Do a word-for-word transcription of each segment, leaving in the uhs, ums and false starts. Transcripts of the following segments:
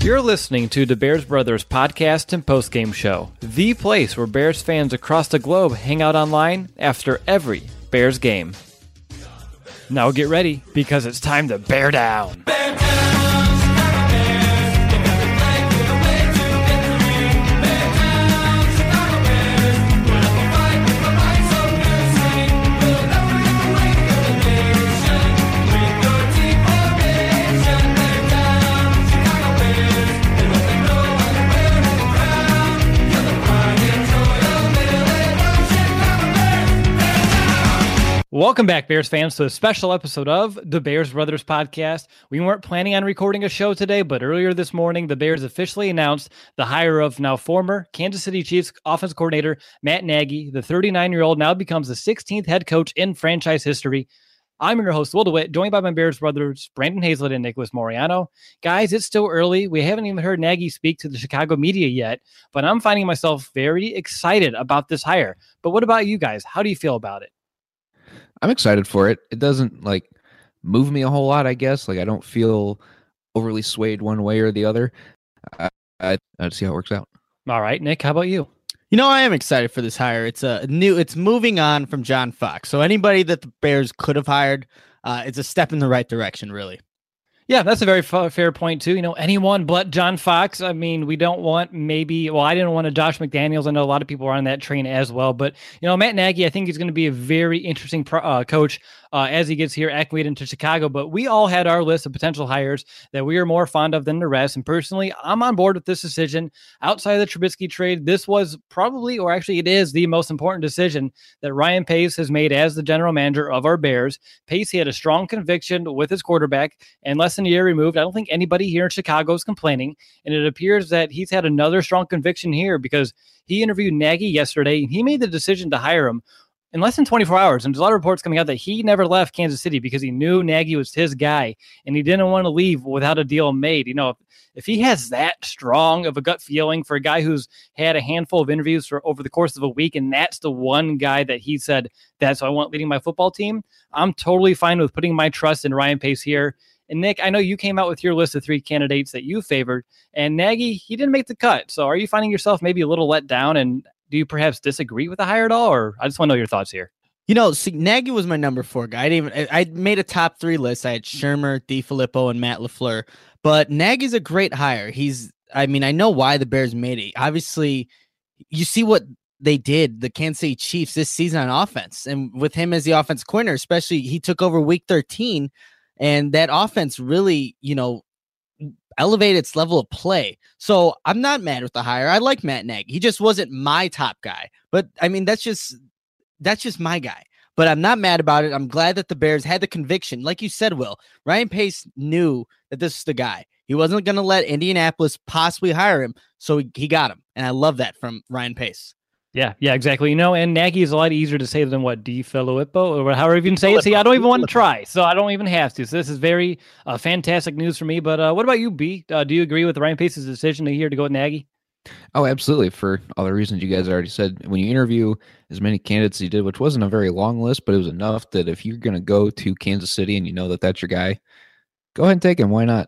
You're listening to the Bears Brothers podcast and postgame show, the place where Bears fans across the globe hang out online after every Bears game. Now get ready, because it's time to bear down. Bear down! Welcome back, Bears fans, to a special episode of the Bears Brothers podcast. We weren't planning on recording a show today, but earlier this morning, the Bears officially announced the hire of now former Kansas City Chiefs offense coordinator Matt Nagy. The thirty-nine-year-old now becomes the sixteenth head coach in franchise history. I'm your host, Will DeWitt, joined by my Bears brothers, Brandon Hazlett and Nicholas Moriano. Guys, it's still early. We haven't even heard Nagy speak to the Chicago media yet, but I'm finding myself very excited about this hire. But what about you guys? How do you feel about it? I'm excited for it. It doesn't like move me a whole lot, I guess. Like I don't feel overly swayed one way or the other. I, I, I'd see how it works out. All right, Nick, how about you? You know, I am excited for this hire. It's a new, it's moving on from John Fox. So anybody that the Bears could have hired, uh, it's a step in the right direction, really. Yeah, that's a very f- fair point, too. You know, anyone but John Fox. I mean, we don't want maybe, well, I didn't want a Josh McDaniels. I know a lot of people are on that train as well. But, you know, Matt Nagy, I think he's going to be a very interesting pro- uh, coach uh, as he gets here acclimated into Chicago. But we all had our list of potential hires that we are more fond of than the rest. And personally, I'm on board with this decision. Outside of the Trubisky trade, this was probably, or actually it is the most important decision that Ryan Pace has made as the general manager of our Bears. Pace, he had a strong conviction with his quarterback, and less than a year removed, I don't think anybody here in Chicago is complaining. And it appears that he's had another strong conviction here because he interviewed Nagy yesterday, and he made the decision to hire him in less than twenty-four hours. And there's a lot of reports coming out that he never left Kansas City because he knew Nagy was his guy, and he didn't want to leave without a deal made. You know, if, if he has that strong of a gut feeling for a guy who's had a handful of interviews for over the course of a week, and that's the one guy that he said, that's who I want leading my football team, I'm totally fine with putting my trust in Ryan Pace here. And Nick, I know you came out with your list of three candidates that you favored, and Nagy, he didn't make the cut. So are you finding yourself maybe a little let down, and do you perhaps disagree with the hire at all? Or I just want to know your thoughts here. You know, see, Nagy was my number four guy. I didn't even, I made a top three list. I had Shermer, DeFilippo, and Matt LaFleur. But Nagy's a great hire. He's, I mean, I know why the Bears made it. Obviously, you see what they did, the Kansas City Chiefs, this season on offense. And with him as the offense coordinator, especially, he took over week thirteen. And that offense really, you know, elevated its level of play. So I'm not mad with the hire. I like Matt Nagy. He just wasn't my top guy. But I mean, that's just that's just my guy. But I'm not mad about it. I'm glad that the Bears had the conviction. Like you said, Will, Ryan Pace knew that this is the guy. He wasn't going to let Indianapolis possibly hire him. So he, he got him. And I love that from Ryan Pace. Yeah, yeah, exactly. You know, and Nagy is a lot easier to say than what, DeFilippo, or however you even say it. See, I don't even want to try, so I don't even have to. So this is very uh, fantastic news for me. But uh, what about you, B? Uh, do you agree with Ryan Pace's decision here to go with Nagy? Oh, absolutely. For all the reasons you guys already said, when you interview as many candidates as you did, which wasn't a very long list, but it was enough that if you're going to go to Kansas City and you know that that's your guy, go ahead and take him. Why not?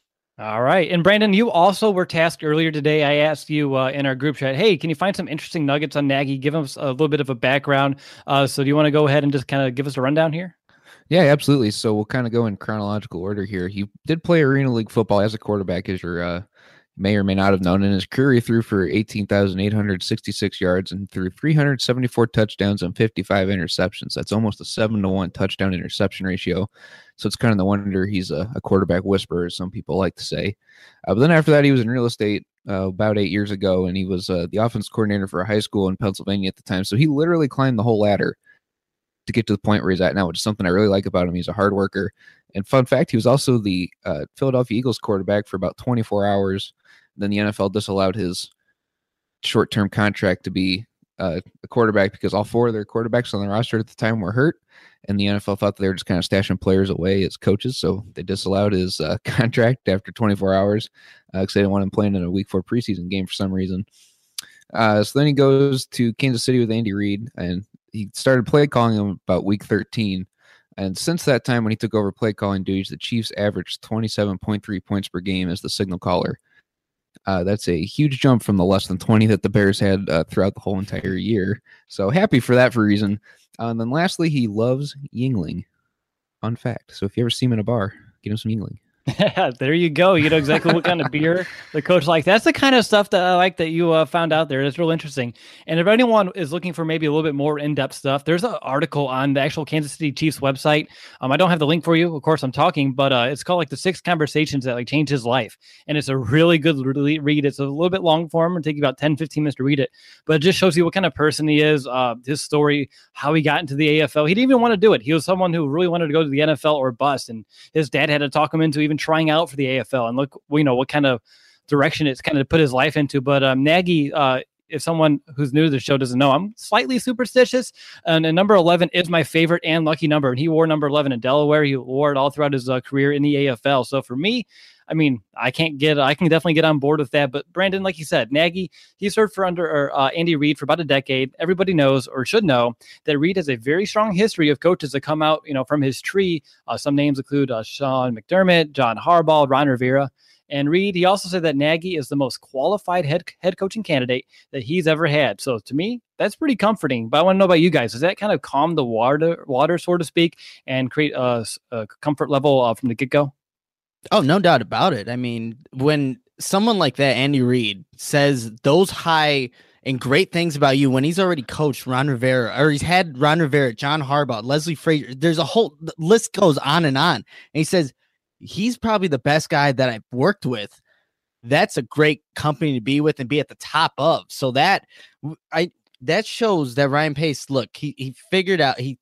All right. And Brandon, you also were tasked earlier today. I asked you uh, in our group chat, hey, can you find some interesting nuggets on Nagy? Give us a little bit of a background. Uh, so do you want to go ahead and just kind of give us a rundown here? Yeah, absolutely. So we'll kind of go in chronological order here. He did play Arena League football as a quarterback, as your uh, may or may not have known. In his career, he threw for eighteen thousand eight hundred sixty-six yards and threw three hundred seventy-four touchdowns and fifty-five interceptions. That's almost a seven to one touchdown interception ratio. So it's kind of the wonder he's a, a quarterback whisperer, as some people like to say. Uh, but then after that, he was in real estate uh, about eight years ago, and he was uh, the offense coordinator for a high school in Pennsylvania at the time. So he literally climbed the whole ladder to get to the point where he's at now, which is something I really like about him. He's a hard worker. And fun fact, he was also the uh, Philadelphia Eagles quarterback for about twenty-four hours. Then the N F L disallowed his short-term contract to be uh, a quarterback because all four of their quarterbacks on the roster at the time were hurt. And the N F L thought they were just kind of stashing players away as coaches. So they disallowed his uh, contract after twenty-four hours because uh, they didn't want him playing in a week four preseason game for some reason. Uh, so then he goes to Kansas City with Andy Reid, and he started play calling him about week thirteen. And since that time, when he took over play calling duties, the Chiefs averaged twenty-seven point three points per game as the signal caller. Uh, that's a huge jump from the less than twenty that the Bears had uh, throughout the whole entire year. So happy for that for a reason. Uh, and then lastly, he loves Yuengling. Fun fact. So if you ever see him in a bar, get him some Yuengling. There you go. You know exactly what kind of beer the coach likes. That's the kind of stuff that I like that you uh, found out there. It's real interesting. And if anyone is looking for maybe a little bit more in-depth stuff, there's an article on the actual Kansas City Chiefs website. Um, I don't have the link for you. Of course, I'm talking, but uh, it's called like the six conversations that like changed his life. And it's a really good read. It's a little bit long form. It'll take you about ten, fifteen minutes to read it, but it just shows you what kind of person he is, uh, his story, how he got into the A F L. He didn't even want to do it. He was someone who really wanted to go to the N F L or bust. And his dad had to talk him into even trying out for the A F L, and look, you know, what kind of direction it's kind of put his life into. But um, Nagy, uh, if someone who's new to the show doesn't know, I'm slightly superstitious, and, and number eleven is my favorite and lucky number. And he wore number eleven in Delaware. He wore it all throughout his uh, career in the A F L. So for me, I mean, I can't get, I can definitely get on board with that. But Brandon, like you said, Nagy, he served for under or, uh, Andy Reid for about a decade. Everybody knows or should know that Reid has a very strong history of coaches that come out, you know, from his tree. Uh, some names include uh, Sean McDermott, John Harbaugh, Ron Rivera. And Reid, he also said that Nagy is the most qualified head head coaching candidate that he's ever had. So to me, that's pretty comforting. But I want to know about you guys. Does that kind of calm the water, water so to speak, and create a, a comfort level uh, from the get-go? Oh, no doubt about it. I mean, when someone like that, Andy Reid, says those high and great things about you when he's already coached Ron Rivera, or he's had Ron Rivera, John Harbaugh, Leslie Frazier, there's a whole the list goes on and on. And he says he's probably the best guy that I've worked with. That's a great company to be with and be at the top of. So that I that shows that Ryan Pace, look, he he figured out, he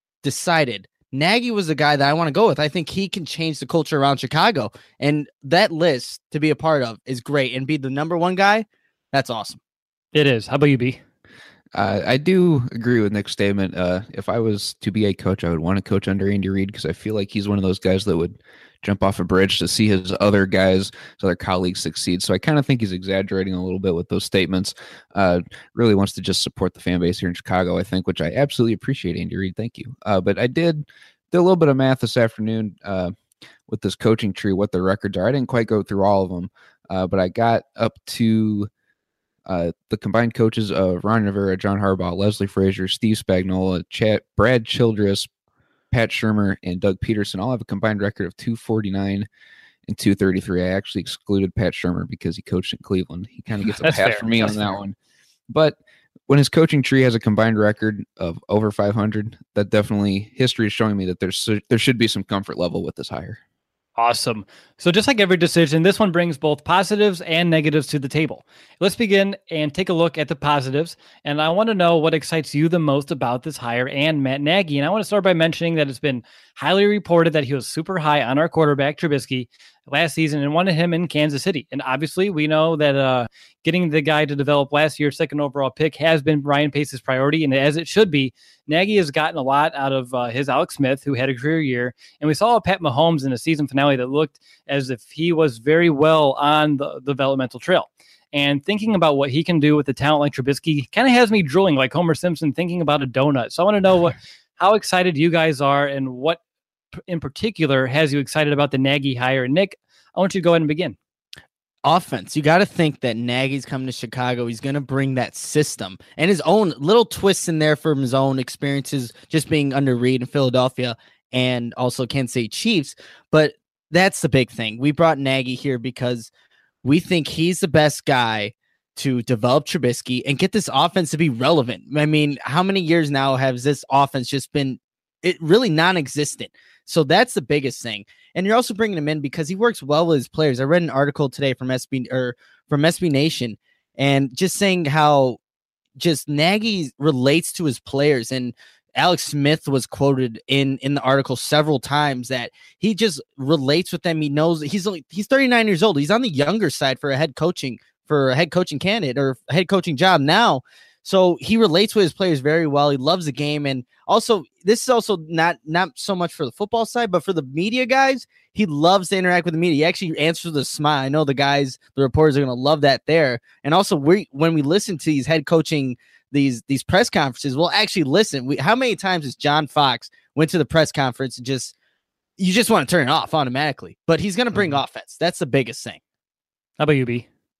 decided Nagy was the guy that I want to go with. I think he can change the culture around Chicago. And that list to be a part of is great. And be the number one guy, that's awesome. It is. How about you, B? Uh, I do agree with Nick's statement. Uh, if I was to be a coach, I would want to coach under Andy Reid because I feel like he's one of those guys that would jump off a bridge to see his other guys, his other colleagues succeed. So I kind of think he's exaggerating a little bit with those statements. Uh, really wants to just support the fan base here in Chicago, I think, which I absolutely appreciate, Andy Reid. Thank you. Uh, but I did do a little bit of math this afternoon uh, with this coaching tree, what the records are. I didn't quite go through all of them, uh, but I got up to Uh, the combined coaches of Ron Rivera, John Harbaugh, Leslie Frazier, Steve Spagnuolo, Chad, Brad Childress, Pat Shurmur, and Doug Peterson all have a combined record of two forty-nine and two thirty-three. I actually excluded Pat Shurmur because he coached in Cleveland. He kind of gets a pass for me on that fair. one. But when his coaching tree has a combined record of over five hundred, that definitely history is showing me that there's there should be some comfort level with this hire. Awesome. So just like every decision, this one brings both positives and negatives to the table. Let's begin and take a look at the positives. And I want to know what excites you the most about this hire and Matt Nagy. And I want to start by mentioning that it's been highly reported that he was super high on our quarterback, Trubisky, last season and wanted him in Kansas City. And obviously we know that uh, getting the guy to develop last year's second overall pick has been Ryan Pace's priority. And as it should be, Nagy has gotten a lot out of uh, his Alex Smith, who had a career year. And we saw Pat Mahomes in a season finale that looked as if he was very well on the, the developmental trail. And thinking about what he can do with a talent like Trubisky kind of has me drooling like Homer Simpson thinking about a donut. So I want to know what, how excited you guys are and what in particular has you excited about the Nagy hire. Nick, I want you to go ahead and begin. Offense. You got to think that Nagy's coming to Chicago. He's going to bring that system and his own little twists in there from his own experiences, just being under Reid in Philadelphia and also Kansas City Chiefs. But that's the big thing. We brought Nagy here because we think he's the best guy to develop Trubisky and get this offense to be relevant. I mean, how many years now has this offense just been it really non-existent? So that's the biggest thing. And you're also bringing him in because he works well with his players. I read an article today from S B or from S B Nation and just saying how just Nagy relates to his players. And Alex Smith was quoted in, in the article several times that he just relates with them. He knows he's only, he's thirty-nine years old. He's on the younger side for a head coaching, for a head coaching candidate or a head coaching job now. So he relates with his players very well. He loves the game. And also, this is also not, not so much for the football side, but for the media guys, he loves to interact with the media. He actually answers with a smile. I know the guys, the reporters are going to love that there. And also, we when we listen to these head coaching, these these press conferences, we'll actually listen. We, how many times has John Fox went to the press conference and just, you just want to turn it off automatically. But he's going to bring mm-hmm. offense. That's the biggest thing. How about you, B?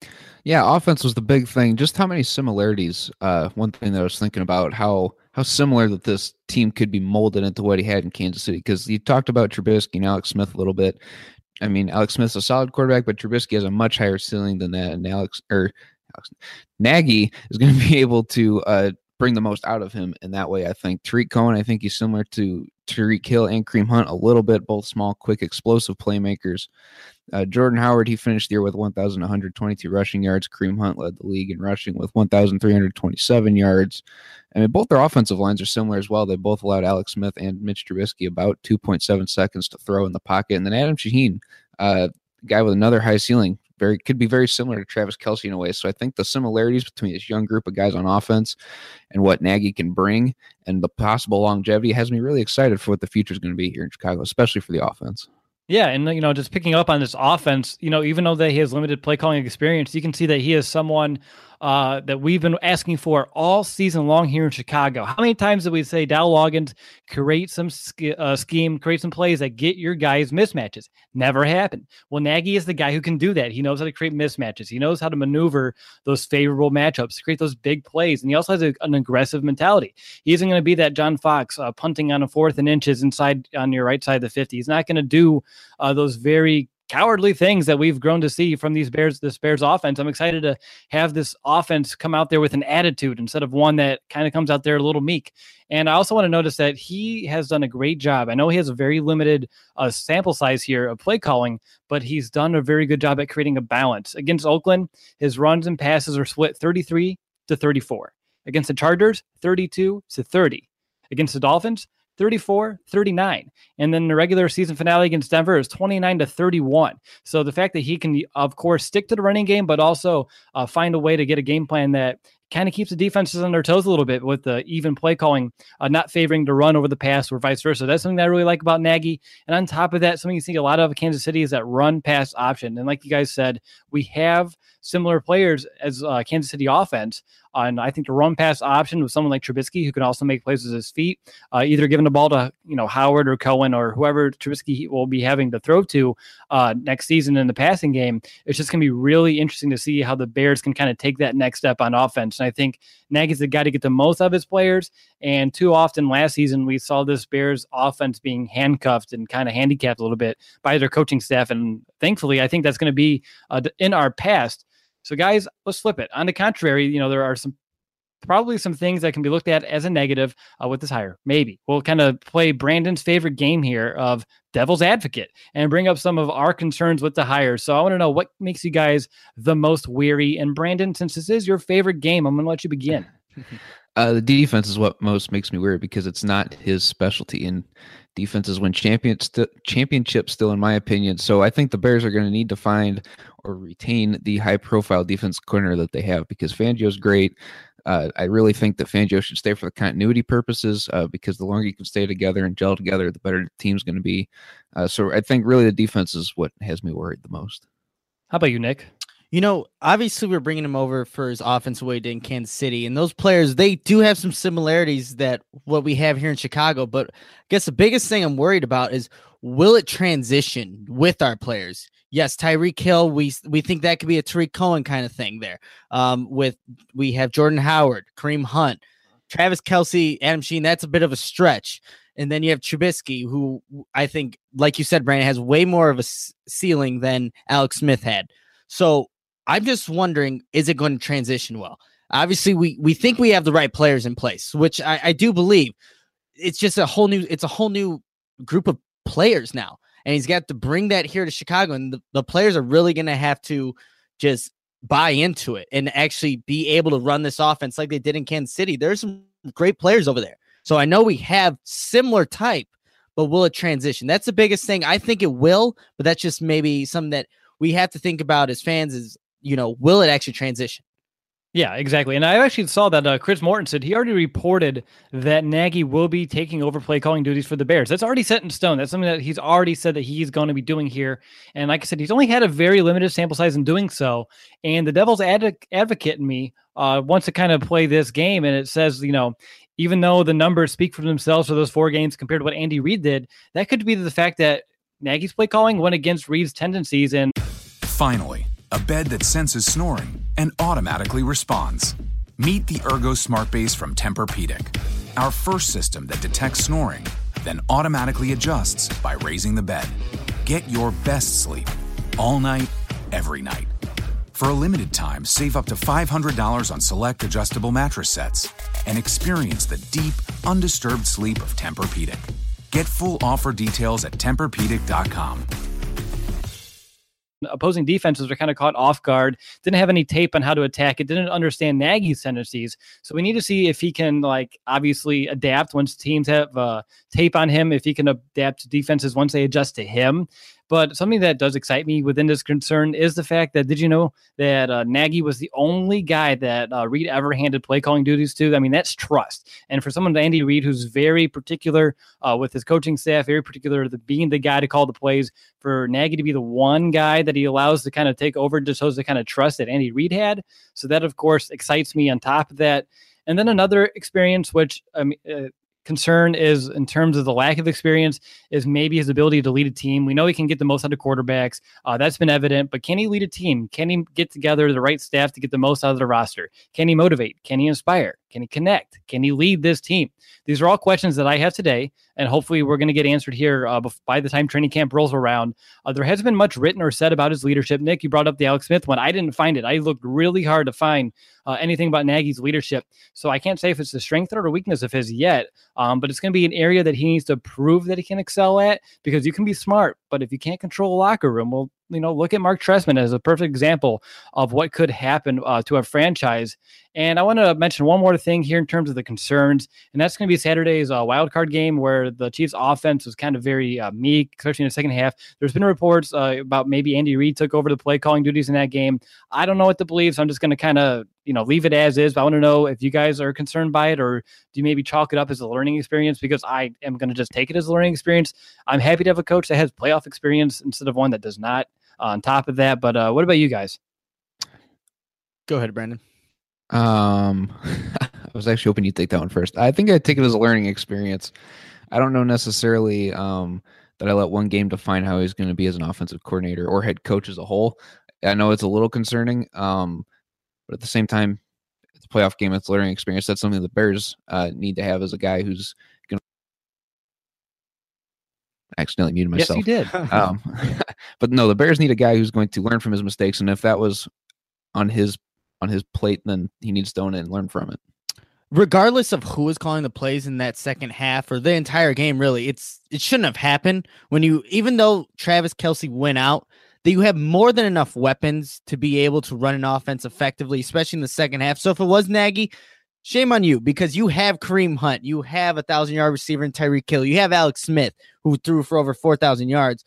Yeah, offense was the big thing. Just how many similarities. Uh, one thing that I was thinking about how how similar that this team could be molded into what he had in Kansas City. Because you talked about Trubisky and Alex Smith a little bit. I mean, Alex Smith's a solid quarterback, but Trubisky has a much higher ceiling than that. And Alex or Alex, Nagy is going to be able to uh, bring the most out of him in that way. I think Tariq Cohen, I think he's similar to Tyreek Hill and Kareem Hunt a little bit, both small, quick, explosive playmakers. Uh, Jordan Howard, he finished the year with one thousand one hundred twenty-two rushing yards. Kareem Hunt led the league in rushing with one thousand three hundred twenty-seven yards. I mean, both their offensive lines are similar as well. They both allowed Alex Smith and Mitch Trubisky about two point seven seconds to throw in the pocket. And then Adam Shaheen, uh, guy with another high ceiling, very could be very similar to Travis Kelce in a way. So I think the similarities between this young group of guys on offense and what Nagy can bring and the possible longevity has me really excited for what the future is going to be here in Chicago, especially for the offense. Yeah, and you know, just picking up on this offense, you know, even though that he has limited play calling experience, you can see that he is someone uh, that we've been asking for all season long here in Chicago. How many times did we say Dow Loggins create some sk- uh, scheme, create some plays that get your guys mismatches? Never happened. Well, Nagy is the guy who can do that. He knows how to create mismatches. He knows how to maneuver those favorable matchups, to create those big plays, and he also has a, an aggressive mentality. He isn't going to be that John Fox uh, punting on a fourth and inches inside on your right side of the fifty. He's not going to do uh, those very cowardly things that we've grown to see from these Bears, this Bears offense. I'm excited to have this offense come out there with an attitude instead of one that kind of comes out there a little meek. And I also want to notice that he has done a great job. I know he has a very limited uh, sample size here of play calling, but he's done a very good job at creating a balance. Against Oakland, his runs and passes are split thirty-three to thirty-four. Against the Chargers, thirty-two to thirty. Against the Dolphins, thirty-four thirty-nine. And then the regular season finale against Denver is twenty-nine to thirty-one. So the fact that he can, of course, stick to the running game, but also uh, find a way to get a game plan that kind of keeps the defenses on their toes a little bit with the even play calling, uh, not favoring to run over the pass or vice versa. That's something that I really like about Nagy. And on top of that, something you see a lot of Kansas City is that run pass option. And like you guys said, we have similar players as uh, Kansas City offense. Uh, and I think the run pass option with someone like Trubisky, who can also make plays with his feet, uh, either giving the ball to, you know, Howard or Cohen or whoever Trubisky will be having to throw to uh, next season in the passing game. It's just going to be really interesting to see how the Bears can kind of take that next step on offense. And I think Nagy's the guy to get the most out of his players. And too often last season, we saw this Bears offense being handcuffed and kind of handicapped a little bit by their coaching staff. And thankfully, I think that's going to be uh, in our past. So guys, let's flip it. On the contrary, you know, there are some probably some things that can be looked at as a negative uh, with this hire. Maybe we'll kind of play Brandon's favorite game here of devil's advocate and bring up some of our concerns with the hire. So I want to know what makes you guys the most weary. And Brandon, since this is your favorite game, I'm going to let you begin. Uh, the defense is what most makes me weird because it's not his specialty, and defenses win champion st- championships still, in my opinion. So I think the Bears are going to need to find or retain the high-profile defense corner that they have because Fangio's great. Uh, I really think that Fangio should stay for the continuity purposes uh, because the longer you can stay together and gel together, the better the team's going to be. Uh, so I think really the defense is what has me worried the most. How about you, Nick? You know, obviously we're bringing him over for his offensive way in Kansas City, and those players, they do have some similarities that what we have here in Chicago. But I guess the biggest thing I'm worried about is, will it transition with our players? Yes, Tyreek Hill, we we think that could be a Tariq Cohen kind of thing there. Um, with we have Jordan Howard, Kareem Hunt, Travis Kelce, Adam Shaheen. That's a bit of a stretch. And then you have Trubisky, who I think, like you said, Brandon, has way more of a ceiling than Alex Smith had. So I'm just wondering, is it going to transition well? Obviously, we we think we have the right players in place, which I, I do believe. It's just a whole new, it's a whole new group of players now. And he's got to bring that here to Chicago. And the, the players are really going to have to just buy into it and actually be able to run this offense like they did in Kansas City. There's some great players over there. So I know we have similar type, but will it transition? That's the biggest thing. I think it will, but that's just maybe something that we have to think about as fans is, you know, will it actually transition? Yeah, exactly. And I actually saw that uh, Chris Morton said he already reported that Nagy will be taking over play calling duties for the Bears. That's already set in stone. That's something that he's already said that he's going to be doing here. And like I said, he's only had a very limited sample size in doing so. And the devil's ad- advocate in me uh, wants to kind of play this game. And it says, you know, even though the numbers speak for themselves for those four games compared to what Andy Reid did, that could be the fact that Nagy's play calling went against Reid's tendencies. And finally, a bed that senses snoring and automatically responds. Meet the Ergo Smart Base from Tempur-Pedic, our first system that detects snoring, then automatically adjusts by raising the bed. Get your best sleep all night, every night. For a limited time, save up to five hundred dollars on select adjustable mattress sets and experience the deep, undisturbed sleep of Tempur-Pedic. Get full offer details at Tempur Pedic dot com. Opposing defenses were kind of caught off guard, didn't have any tape on how to attack it, didn't understand Nagy's tendencies. So we need to see if he can, like, obviously adapt once teams have uh, tape on him, if he can adapt to defenses once they adjust to him. But something that does excite me within this concern is the fact that, did you know that uh, Nagy was the only guy that uh, Reid ever handed play calling duties to? I mean, that's trust. And for someone, Andy Reid, who's very particular uh, with his coaching staff, very particular to being the guy to call the plays, for Nagy to be the one guy that he allows to kind of take over, just shows the kind of trust that Andy Reid had. So that, of course, excites me on top of that. And then another experience, which um, uh, concern is in terms of the lack of experience, is maybe his ability to lead a team. We know he can get the most out of quarterbacks. Uh, that's been evident, but can he lead a team? Can he get together the right staff to get the most out of the roster? Can he motivate? Can he inspire? Can he connect? Can he lead this team? These are all questions that I have today, and hopefully we're going to get answered here uh, by the time training camp rolls around. Uh, there hasn't been much written or said about his leadership. Nick, you brought up the Alex Smith one. I didn't find it. I looked really hard to find uh, anything about Nagy's leadership. So I can't say if it's a strength or a weakness of his yet, um, but it's going to be an area that he needs to prove that he can excel at, because you can be smart, but if you can't control a locker room, well, you know, look at Mark Trestman as a perfect example of what could happen uh, to a franchise. And I want to mention one more thing here in terms of the concerns, and that's going to be Saturday's uh, wild card game, where the Chiefs' offense was kind of very uh, meek, especially in the second half. There's been reports uh, about maybe Andy Reid took over the play calling duties in that game. I don't know what to believe, so I'm just going to kind of, you know, leave it as is. But I want to know if you guys are concerned by it, or do you maybe chalk it up as a learning experience? Because I am going to just take it as a learning experience. I'm happy to have a coach that has playoff experience instead of one that does not. Uh, on top of that, but uh, what about you guys? Go ahead, Brandon. Um, I was actually hoping you'd take that one first. I think I take it as a learning experience. I don't know necessarily um, that I let one game define how he's going to be as an offensive coordinator or head coach as a whole. I know it's a little concerning, um, but at the same time, it's a playoff game. It's a learning experience. That's something the Bears uh, need to have as a guy who's going to accidentally muted myself. Yes, you did. um, but no, the Bears need a guy who's going to learn from his mistakes. And if that was on his on his plate, then he needs to own it and learn from it. Regardless of who is calling the plays in that second half or the entire game, really, it's it shouldn't have happened. When you, even though Travis Kelce went out, that you have more than enough weapons to be able to run an offense effectively, especially in the second half. So if it was Nagy, shame on you, because you have Kareem Hunt, you have a thousand yard receiver in Tyreek Hill, you have Alex Smith, who threw for over four thousand yards.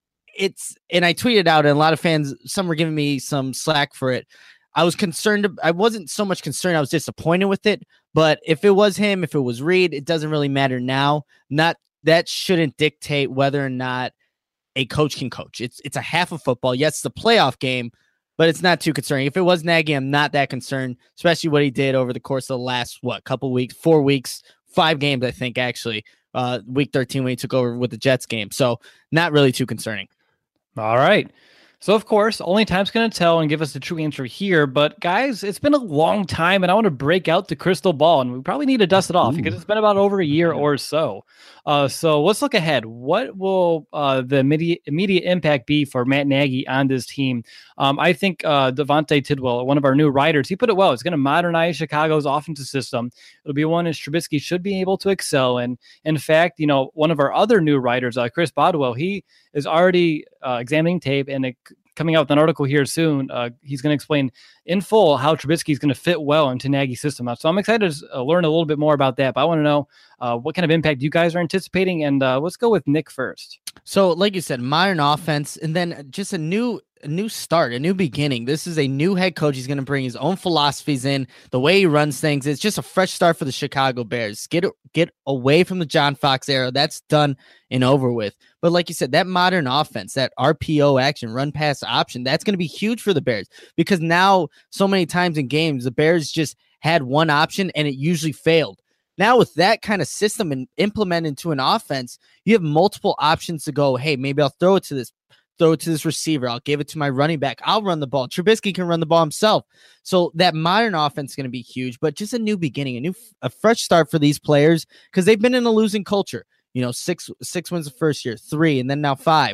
It's, and I tweeted out, and a lot of fans, some were giving me some slack for it. I was concerned. I wasn't so much concerned. I was disappointed with it. But if it was him, if it was Reid, it doesn't really matter now. Not that shouldn't dictate whether or not a coach can coach. It's it's a half of football. Yes, it's a playoff game, but it's not too concerning. If it was Nagy, I'm not that concerned, especially what he did over the course of the last, what, couple weeks, four weeks, five games, I think, actually, uh, week thirteen when he took over with the Jets game. So not really too concerning. All right. So, of course, only time's going to tell and give us the true answer here. But, guys, it's been a long time, and I want to break out the crystal ball, and we probably need to dust it off Ooh. because it's been about over a year or so. Uh, so let's look ahead. What will uh, the immediate, immediate impact be for Matt Nagy on this team? Um, I think uh, Devontae Tidwell, one of our new writers, he put it well. It's going to modernize Chicago's offensive system. It'll be one that Trubisky should be able to excel in. In fact, you know, one of our other new writers, uh, Chris Bodwell, he is already uh, examining tape and it, coming out with an article here soon. Uh, he's going to explain in full how Trubisky is going to fit well into Nagy's system. So I'm excited to uh, learn a little bit more about that, but I want to know uh, what kind of impact you guys are anticipating. And uh, let's go with Nick first. So like you said, modern offense, and then just a new a new start, a new beginning. This is a new head coach. He's going to bring his own philosophies in, the way he runs things. It's just a fresh start for the Chicago Bears. Get get away from the John Fox era. That's done and over with. But like you said, that modern offense, that R P O action, run pass option, that's going to be huge for the Bears, because now so many times in games, the Bears just had one option and it usually failed. Now with that kind of system and implemented into an offense, you have multiple options to go, hey, maybe I'll throw it to this throw it to this receiver. I'll give it to my running back. I'll run the ball. Trubisky can run the ball himself. So that modern offense is going to be huge, but just a new beginning, a new, a fresh start for these players because they've been in a losing culture. You know, six six wins the first year, three, and then now five.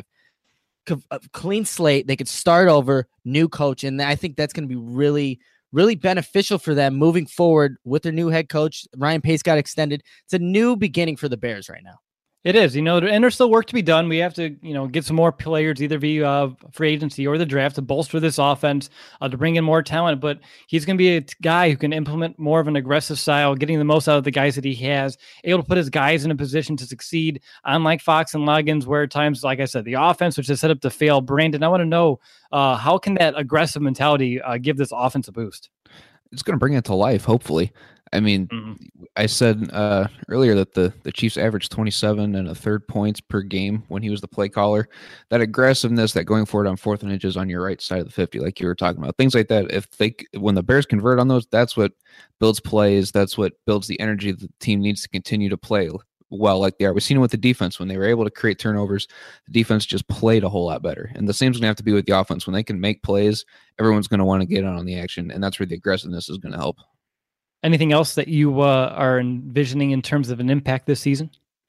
A clean slate. They could start over, new coach, and I think that's going to be really, really beneficial for them moving forward with their new head coach. Ryan Pace got extended. It's a new beginning for the Bears right now. It is, you know, and there's still work to be done. We have to, you know, get some more players either via uh, free agency or the draft to bolster this offense, uh, to bring in more talent. But he's going to be a guy who can implement more of an aggressive style, getting the most out of the guys that he has, able to put his guys in a position to succeed, unlike Fox and Loggins, where at times, like I said, the offense was just set up to fail. Brandon, I want to know, uh, how can that aggressive mentality uh, give this offense a boost? It's going to bring it to life, hopefully. I mean, mm-hmm. I said uh, earlier that the, the Chiefs averaged twenty-seven and a third points per game when he was the play caller. That aggressiveness, that going forward on fourth and inches on your right side of the fifty, like you were talking about, things like that. If they, when the Bears convert on those, that's what builds plays. That's what builds the energy the team needs to continue to play well, like they are. We've seen it with the defense when they were able to create turnovers. The defense just played a whole lot better, and the same's going to have to be with the offense. When they can make plays, everyone's going to want to get on the action, and that's where the aggressiveness is going to help. Anything else that you uh, are envisioning in terms of an impact this season?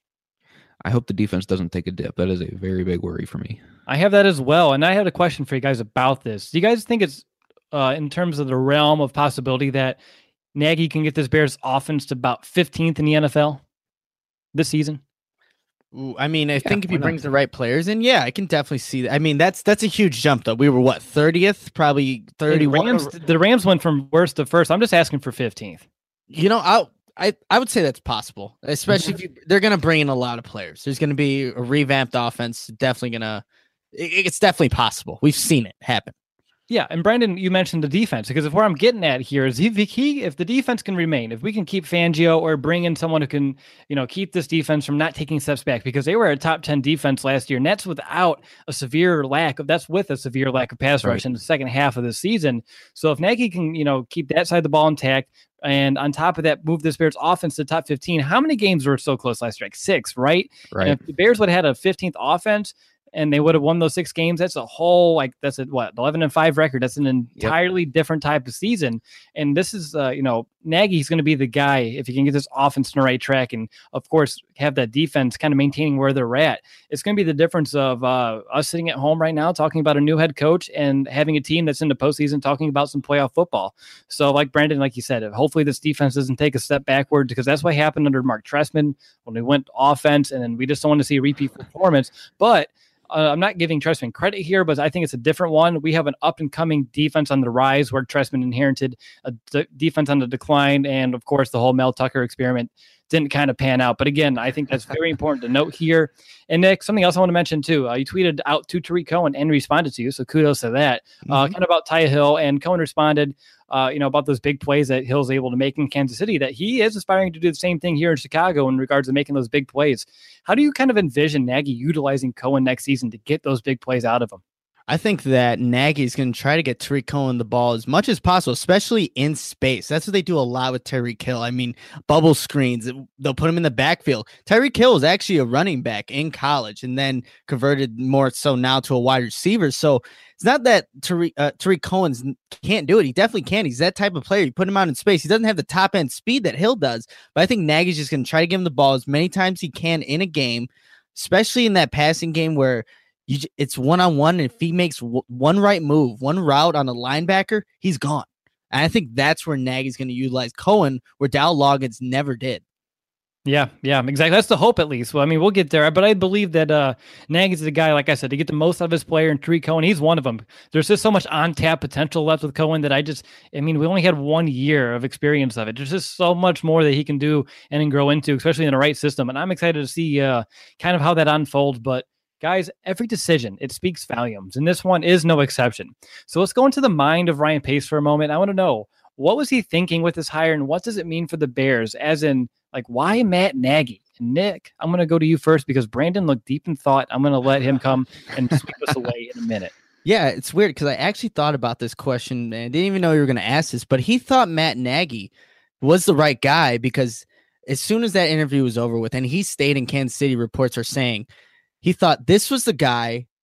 I hope the defense doesn't take a dip. That is a very big worry for me. I have that as well, and I had a question for you guys about this. Do you guys think it's, uh, in terms of the realm of possibility, that Nagy can get this Bears offense to about fifteenth in the N F L this season? Ooh, I mean, I yeah, think if he brings not? the right players in, yeah, I can definitely see that. I mean, that's that's a huge jump, though. We were, what, thirtieth? Probably thirty-one? Rams, the Rams went from worst to first. I'm just asking for fifteenth. You know, I I, I would say that's possible, especially if you, they're going to bring in a lot of players. There's going to be a revamped offense. Definitely going to it, – it's definitely possible. We've seen it happen. Yeah, and Brandon, you mentioned the defense, because if where I'm getting at here is if he, if the defense can remain, if we can keep Fangio or bring in someone who can, you know, keep this defense from not taking steps back, because they were a top ten defense last year, and that's without a severe lack of, that's with a severe lack of pass rush right. in the second half of the season. So if Nagy can, you know, keep that side of the ball intact, and on top of that, move this Bears offense to the top fifteen, how many games were so close last year? Like six, right? Right. And if the Bears would have had a fifteenth offense, and they would have won those six games, that's a whole, like, that's a, what, eleven and five record. That's an entirely yep. different type of season. And this is, uh, you know, Nagy's going to be the guy if he can get this offense in the right track and, of course, have that defense kind of maintaining where they're at. It's going to be the difference of uh, us sitting at home right now talking about a new head coach and having a team that's in the postseason talking about some playoff football. So, like Brandon, like you said, hopefully this defense doesn't take a step backward, because that's what happened under Mark Trestman when we went offense, and then we just don't want to see a repeat performance. But Uh, I'm not giving Trestman credit here, but I think it's a different one. We have an up-and-coming defense on the rise where Trestman inherited a d- defense on the decline, and, of course, the whole Mel Tucker experiment didn't kind of pan out. But, again, I think that's very important to note here. And, Nick, something else I want to mention, too. Uh, you tweeted out to Tariq Cohen and responded to you, so kudos to that. Mm-hmm. Uh, kind of about Ty Hill, and Cohen responded, uh, you know, about those big plays that Hill's able to make in Kansas City, that he is aspiring to do the same thing here in Chicago in regards to making those big plays. How do you kind of envision Nagy utilizing Cohen next season to get those big plays out of him? I think that Nagy is going to try to get Tariq Cohen the ball as much as possible, especially in space. That's what they do a lot with Tyreek Hill. I mean, bubble screens, they'll put him in the backfield. Tyreek Hill is actually a running back in college and then converted more so now to a wide receiver. So it's not that Tariq, uh, Tariq Cohen can't do it. He definitely can. He's that type of player. You put him out in space. He doesn't have the top end speed that Hill does, but I think Nagy's just going to try to give him the ball as many times he can in a game, especially in that passing game where You, it's one-on-one, and if he makes w- one right move, one route on a linebacker, he's gone. And I think that's where Nagy's going to utilize Cohen, where Dow Loggins never did. Yeah, yeah, exactly. That's the hope, at least. Well, I mean, we'll get there. But I believe that uh, Nagy's the guy, like I said, to get the most out of his player, and Tariq Cohen, he's one of them. There's just so much on-tap potential left with Cohen that I just, I mean, we only had one year of experience of it. There's just so much more that he can do and then grow into, especially in the right system. And I'm excited to see uh, kind of how that unfolds. But guys, every decision, it speaks volumes, and this one is no exception. So let's go into the mind of Ryan Pace for a moment. I want to know, what was he thinking with this hire, and what does it mean for the Bears? As in, like, why Matt Nagy? And Nick, I'm going to go to you first, because Brandon looked deep in thought. I'm going to let him come and sweep us away in a minute. Yeah, it's weird, because I actually thought about this question, and I didn't even know you were going to ask this, but he thought Matt Nagy was the right guy, because as soon as that interview was over with, and he stayed in Kansas City, reports are saying, he thought this was the guy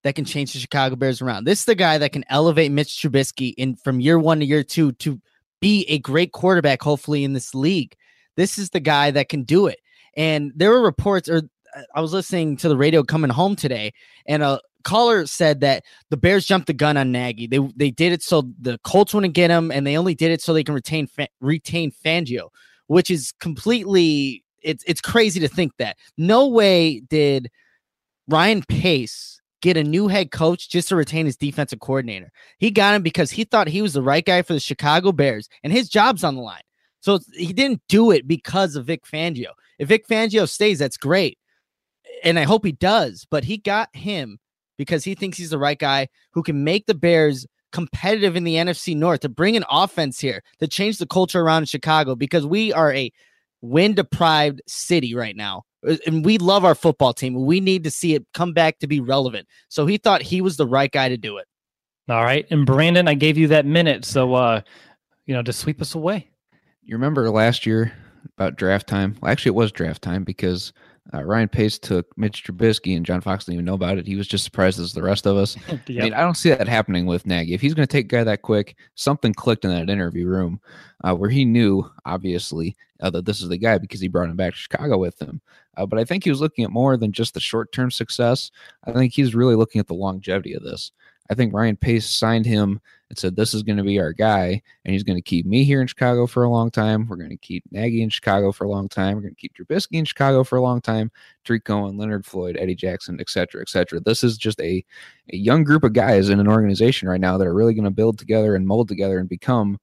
that can change the Chicago Bears around. This is the guy that can elevate Mitch Trubisky in from year one to year two to be a great quarterback, hopefully, in this league. This is the guy that can do it. And there were reports, or I was listening to the radio coming home today, and a caller said that the Bears jumped the gun on Nagy. They they did it so the Colts wouldn't get him, and they only did it so they can retain retain Fangio, which is completely it's it's crazy to think that. No way did Ryan Pace get a new head coach just to retain his defensive coordinator. He got him because he thought he was the right guy for the Chicago Bears, and his job's on the line. So he didn't do it because of Vic Fangio. If Vic Fangio stays, that's great, and I hope he does. But he got him because he thinks he's the right guy who can make the Bears competitive in the N F C North, to bring an offense here, to change the culture around in Chicago, because we are a win-deprived city right now. And we love our football team. We need to see it come back to be relevant. So he thought he was the right guy to do it. All right. And Brandon, I gave you that minute. So, uh, you know, to sweep us away. You remember last year about draft time? Well, actually, it was draft time because uh, Ryan Pace took Mitch Trubisky, and John Fox didn't even know about it. He was just surprised as the rest of us. Yep. I mean, I don't see that happening with Nagy. If he's going to take a guy that quick, something clicked in that interview room uh, where he knew, obviously, uh, that this is the guy because he brought him back to Chicago with him. Uh, but I think he was looking at more than just the short-term success. I think he's really looking at the longevity of this. I think Ryan Pace signed him and said, this is going to be our guy, and he's going to keep me here in Chicago for a long time. We're going to keep Nagy in Chicago for a long time. We're going to keep Trubisky in Chicago for a long time. Tariq Cohen, Leonard Floyd, Eddie Jackson, et cetera, et cetera. This is just a, a young group of guys in an organization right now that are really going to build together and mold together and become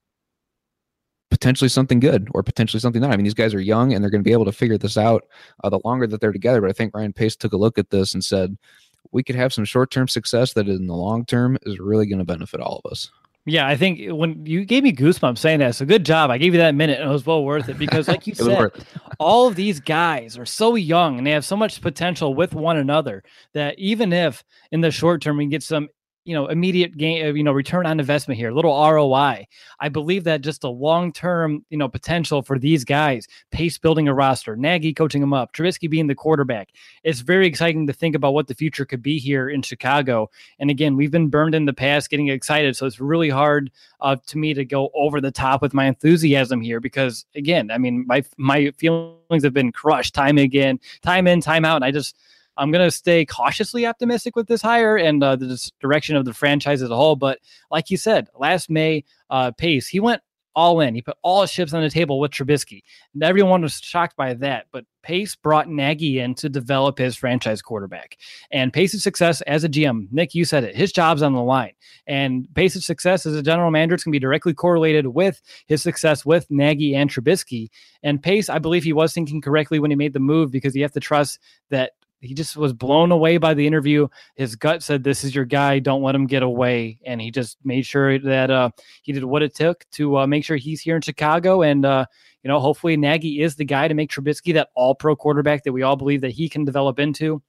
potentially something good or potentially something not. I mean, these guys are young, and they're going to be able to figure this out uh, the longer that they're together. But I think Ryan Pace took a look at this and said, we could have some short-term success that in the long term is really going to benefit all of us. Yeah, I think when you gave me goosebumps saying that, so good job. I gave you that minute, and it was well worth it because, like you said, all of these guys are so young and they have so much potential with one another that even if in the short term we can get some, you know, immediate gain, you know, return on investment here, a little R O I, I believe that just a long-term, you know, potential for these guys, Pace building a roster, Nagy coaching them up, Trubisky being the quarterback. It's very exciting to think about what the future could be here in Chicago. And again, we've been burned in the past getting excited. So it's really hard uh, to me to go over the top with my enthusiasm here because again, I mean, my, my feelings have been crushed time again, time in, time out. And I just, I'm going to stay cautiously optimistic with this hire and uh, the direction of the franchise as a whole. But like you said, last May, uh, Pace, he went all in. He put all his chips on the table with Trubisky. And everyone was shocked by that. But Pace brought Nagy in to develop his franchise quarterback. And Pace's success as a G M, Nick, you said it, his job's on the line. And Pace's success as a general manager is going to be directly correlated with his success with Nagy and Trubisky. And Pace, I believe he was thinking correctly when he made the move because you have to trust that he just was blown away by the interview. His gut said, this is your guy. Don't let him get away. And he just made sure that uh, he did what it took to uh, make sure he's here in Chicago. And, uh, you know, hopefully Nagy is the guy to make Trubisky that all-pro quarterback that we all believe that he can develop into.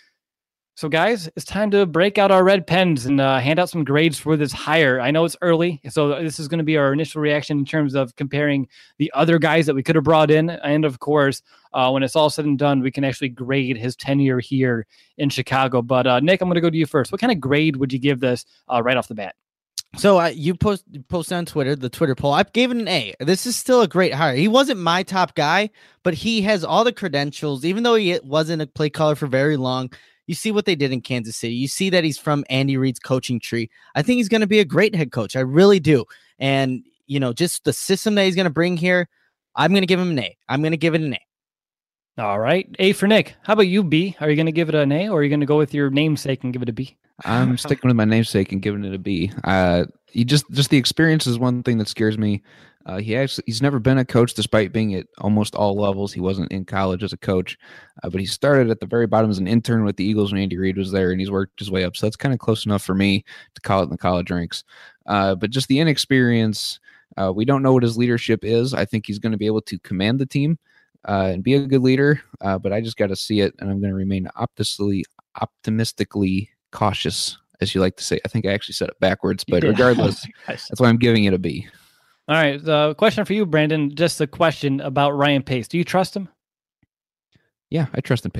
So, guys, it's time to break out our red pens and uh, hand out some grades for this hire. I know it's early, so this is going to be our initial reaction in terms of comparing the other guys that we could have brought in. And, of course, uh, when it's all said and done, we can actually grade his tenure here in Chicago. But, uh, Nick, I'm going to go to you first. What kind of grade would you give this uh, right off the bat? So uh, you post posted on Twitter, the Twitter poll. I gave it an A. This is still a great hire. He wasn't my top guy, but he has all the credentials, even though he wasn't a play caller for very long. You see what they did in Kansas City. You see that he's from Andy Reid's coaching tree. I think he's going to be a great head coach. I really do. And, you know, just the system that he's going to bring here, I'm going to give him an A. I'm going to give it an A. All right. A for Nick. How about you, B? Are you going to give it an A or are you going to go with your namesake and give it a B? I'm sticking with my namesake and giving it a B. Uh, he just, just the experience is one thing that scares me. Uh, he actually, he's never been a coach despite being at almost all levels. He wasn't in college as a coach, uh, but he started at the very bottom as an intern with the Eagles when Andy Reid was there, and he's worked his way up. So that's kind of close enough for me to call it in the college ranks. Uh, but just the inexperience, uh, we don't know what his leadership is. I think he's going to be able to command the team uh, and be a good leader, uh, but I just got to see it, and I'm going to remain optimistically, optimistically cautious, as you like to say. I think I actually said it backwards, but regardless, that's why I'm giving it a B. All right. The uh, question for you, Brandon, just a question about Ryan Pace. Do you trust him? Yeah, I trust in Pace.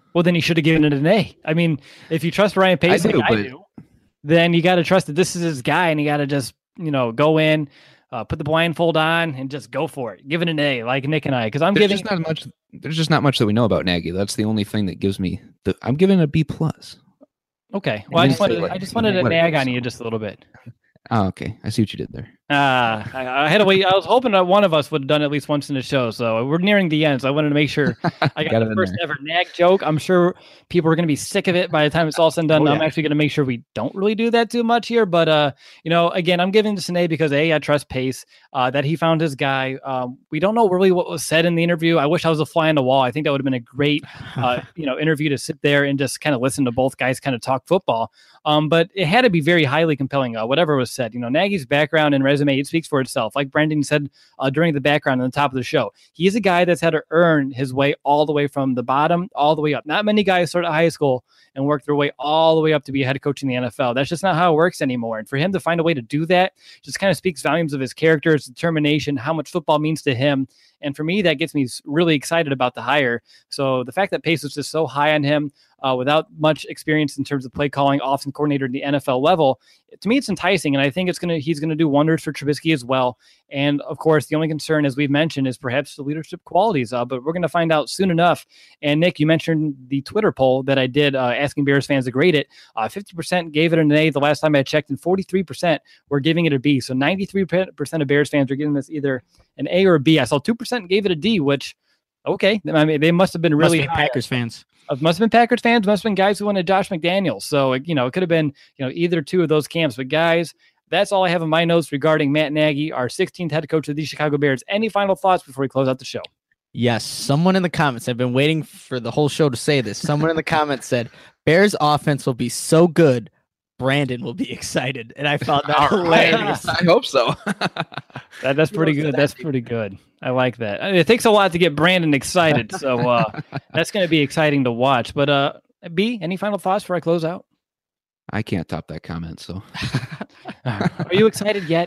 Well, then he should have given it an A. I mean, if you trust Ryan Pace I do, like but... I do, then you got to trust that this is his guy, and you got to just, you know, go in, uh, put the blindfold on, and just go for it. Give it an A, like Nick and I, because I'm there's giving just not much. There's just not much that we know about Nagy. That's the only thing that gives me the. I'm giving it a B plus. Okay, well, I just wanted, like, I just wanted to what nag on you just a little bit. Oh, okay. I see what you did there. Uh, I, I had to wait. I was hoping that one of us would have done it at least once in the show. So we're nearing the end. So I wanted to make sure I got, got the first there. ever nag joke. I'm sure people are going to be sick of it by the time it's all said and done. Oh, yeah. I'm actually going to make sure we don't really do that too much here. But, uh, you know, again, I'm giving this an A because A, I trust Pace, uh, that he found his guy. Um, we don't know really what was said in the interview. I wish I was a fly on the wall. I think that would have been a great, uh, you know, interview to sit there and just kind of listen to both guys kind of talk football. Um, but it had to be very highly compelling, uh, whatever was said. You know, Nagy's background and resume, it speaks for itself. Like Brendan said uh, during the background on the top of the show, he's a guy that's had to earn his way all the way from the bottom all the way up. Not many guys start at high school and work their way all the way up to be a head coach in the N F L. That's just not how it works anymore. And for him to find a way to do that just kind of speaks volumes of his character, his determination, how much football means to him. And for me, that gets me really excited about the hire. So the fact that Pace was just so high on him uh, without much experience in terms of play calling, offensive coordinator at the N F L level, to me, it's enticing. And I think it's gonna he's going to do wonders for Trubisky as well. And of course, the only concern, as we've mentioned, is perhaps the leadership qualities. Uh, but we're going to find out soon enough. And Nick, you mentioned the Twitter poll that I did uh, asking Bears fans to grade it. Uh, fifty percent gave it an A the last time I checked, and forty-three percent were giving it a B. So ninety-three percent of Bears fans are giving this either an A or a B. I saw two percent gave it a D, which, okay. I mean, they must have been really must be Packers fans. Uh, must have been Packers fans. Must have been guys who wanted Josh McDaniels. So, you know, it could have been, you know, either two of those camps. But guys, that's all I have in my notes regarding Matt Nagy, our sixteenth head coach of the Chicago Bears. Any final thoughts before we close out the show? Yes. Someone in the comments, I've been waiting for the whole show to say this. Someone in the comments said, Bears offense will be so good, Brandon will be excited. And I found that hilarious. I hope so. that, that's pretty good. That's pretty good. I like that. I mean, it takes a lot to get Brandon excited. So uh, that's going to be exciting to watch. But uh, B, any final thoughts before I close out? I can't top that comment. So are you excited yet?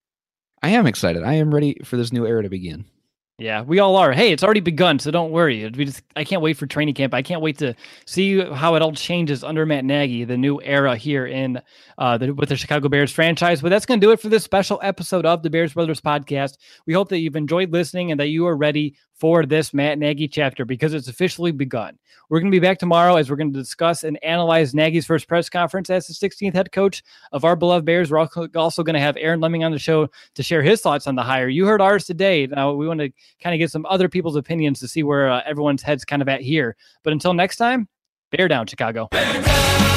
I am excited. I am ready for this new era to begin. Yeah, we all are. Hey, it's already begun, so don't worry. We just, I can't wait for training camp. I can't wait to see how it all changes under Matt Nagy, the new era here in uh, the, with the Chicago Bears franchise. But that's going to do it for this special episode of the Bears Brothers podcast. We hope that you've enjoyed listening and that you are ready for this Matt Nagy chapter because it's officially begun. We're going to be back tomorrow as we're going to discuss and analyze Nagy's first press conference as the sixteenth head coach of our beloved Bears. We're also going to have Aaron Lemming on the show to share his thoughts on the hire. You heard ours today. Now we want to kind of get some other people's opinions to see where uh, everyone's head's kind of at here. But until next time, bear down, Chicago. Bear down!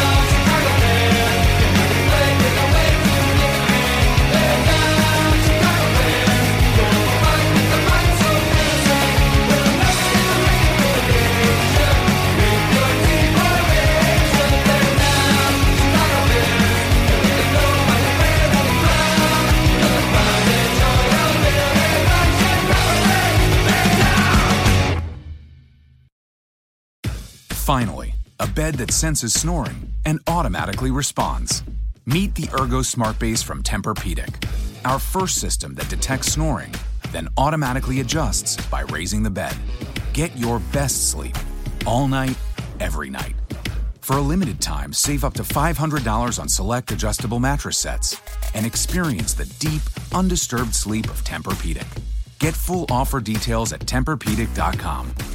Finally, a bed that senses snoring and automatically responds. Meet the Ergo Smart Base from Tempur-Pedic, our first system that detects snoring, then automatically adjusts by raising the bed. Get your best sleep all night, every night. For a limited time, save up to five hundred dollars on select adjustable mattress sets and experience the deep, undisturbed sleep of Tempur-Pedic. Get full offer details at Tempur Pedic dot com.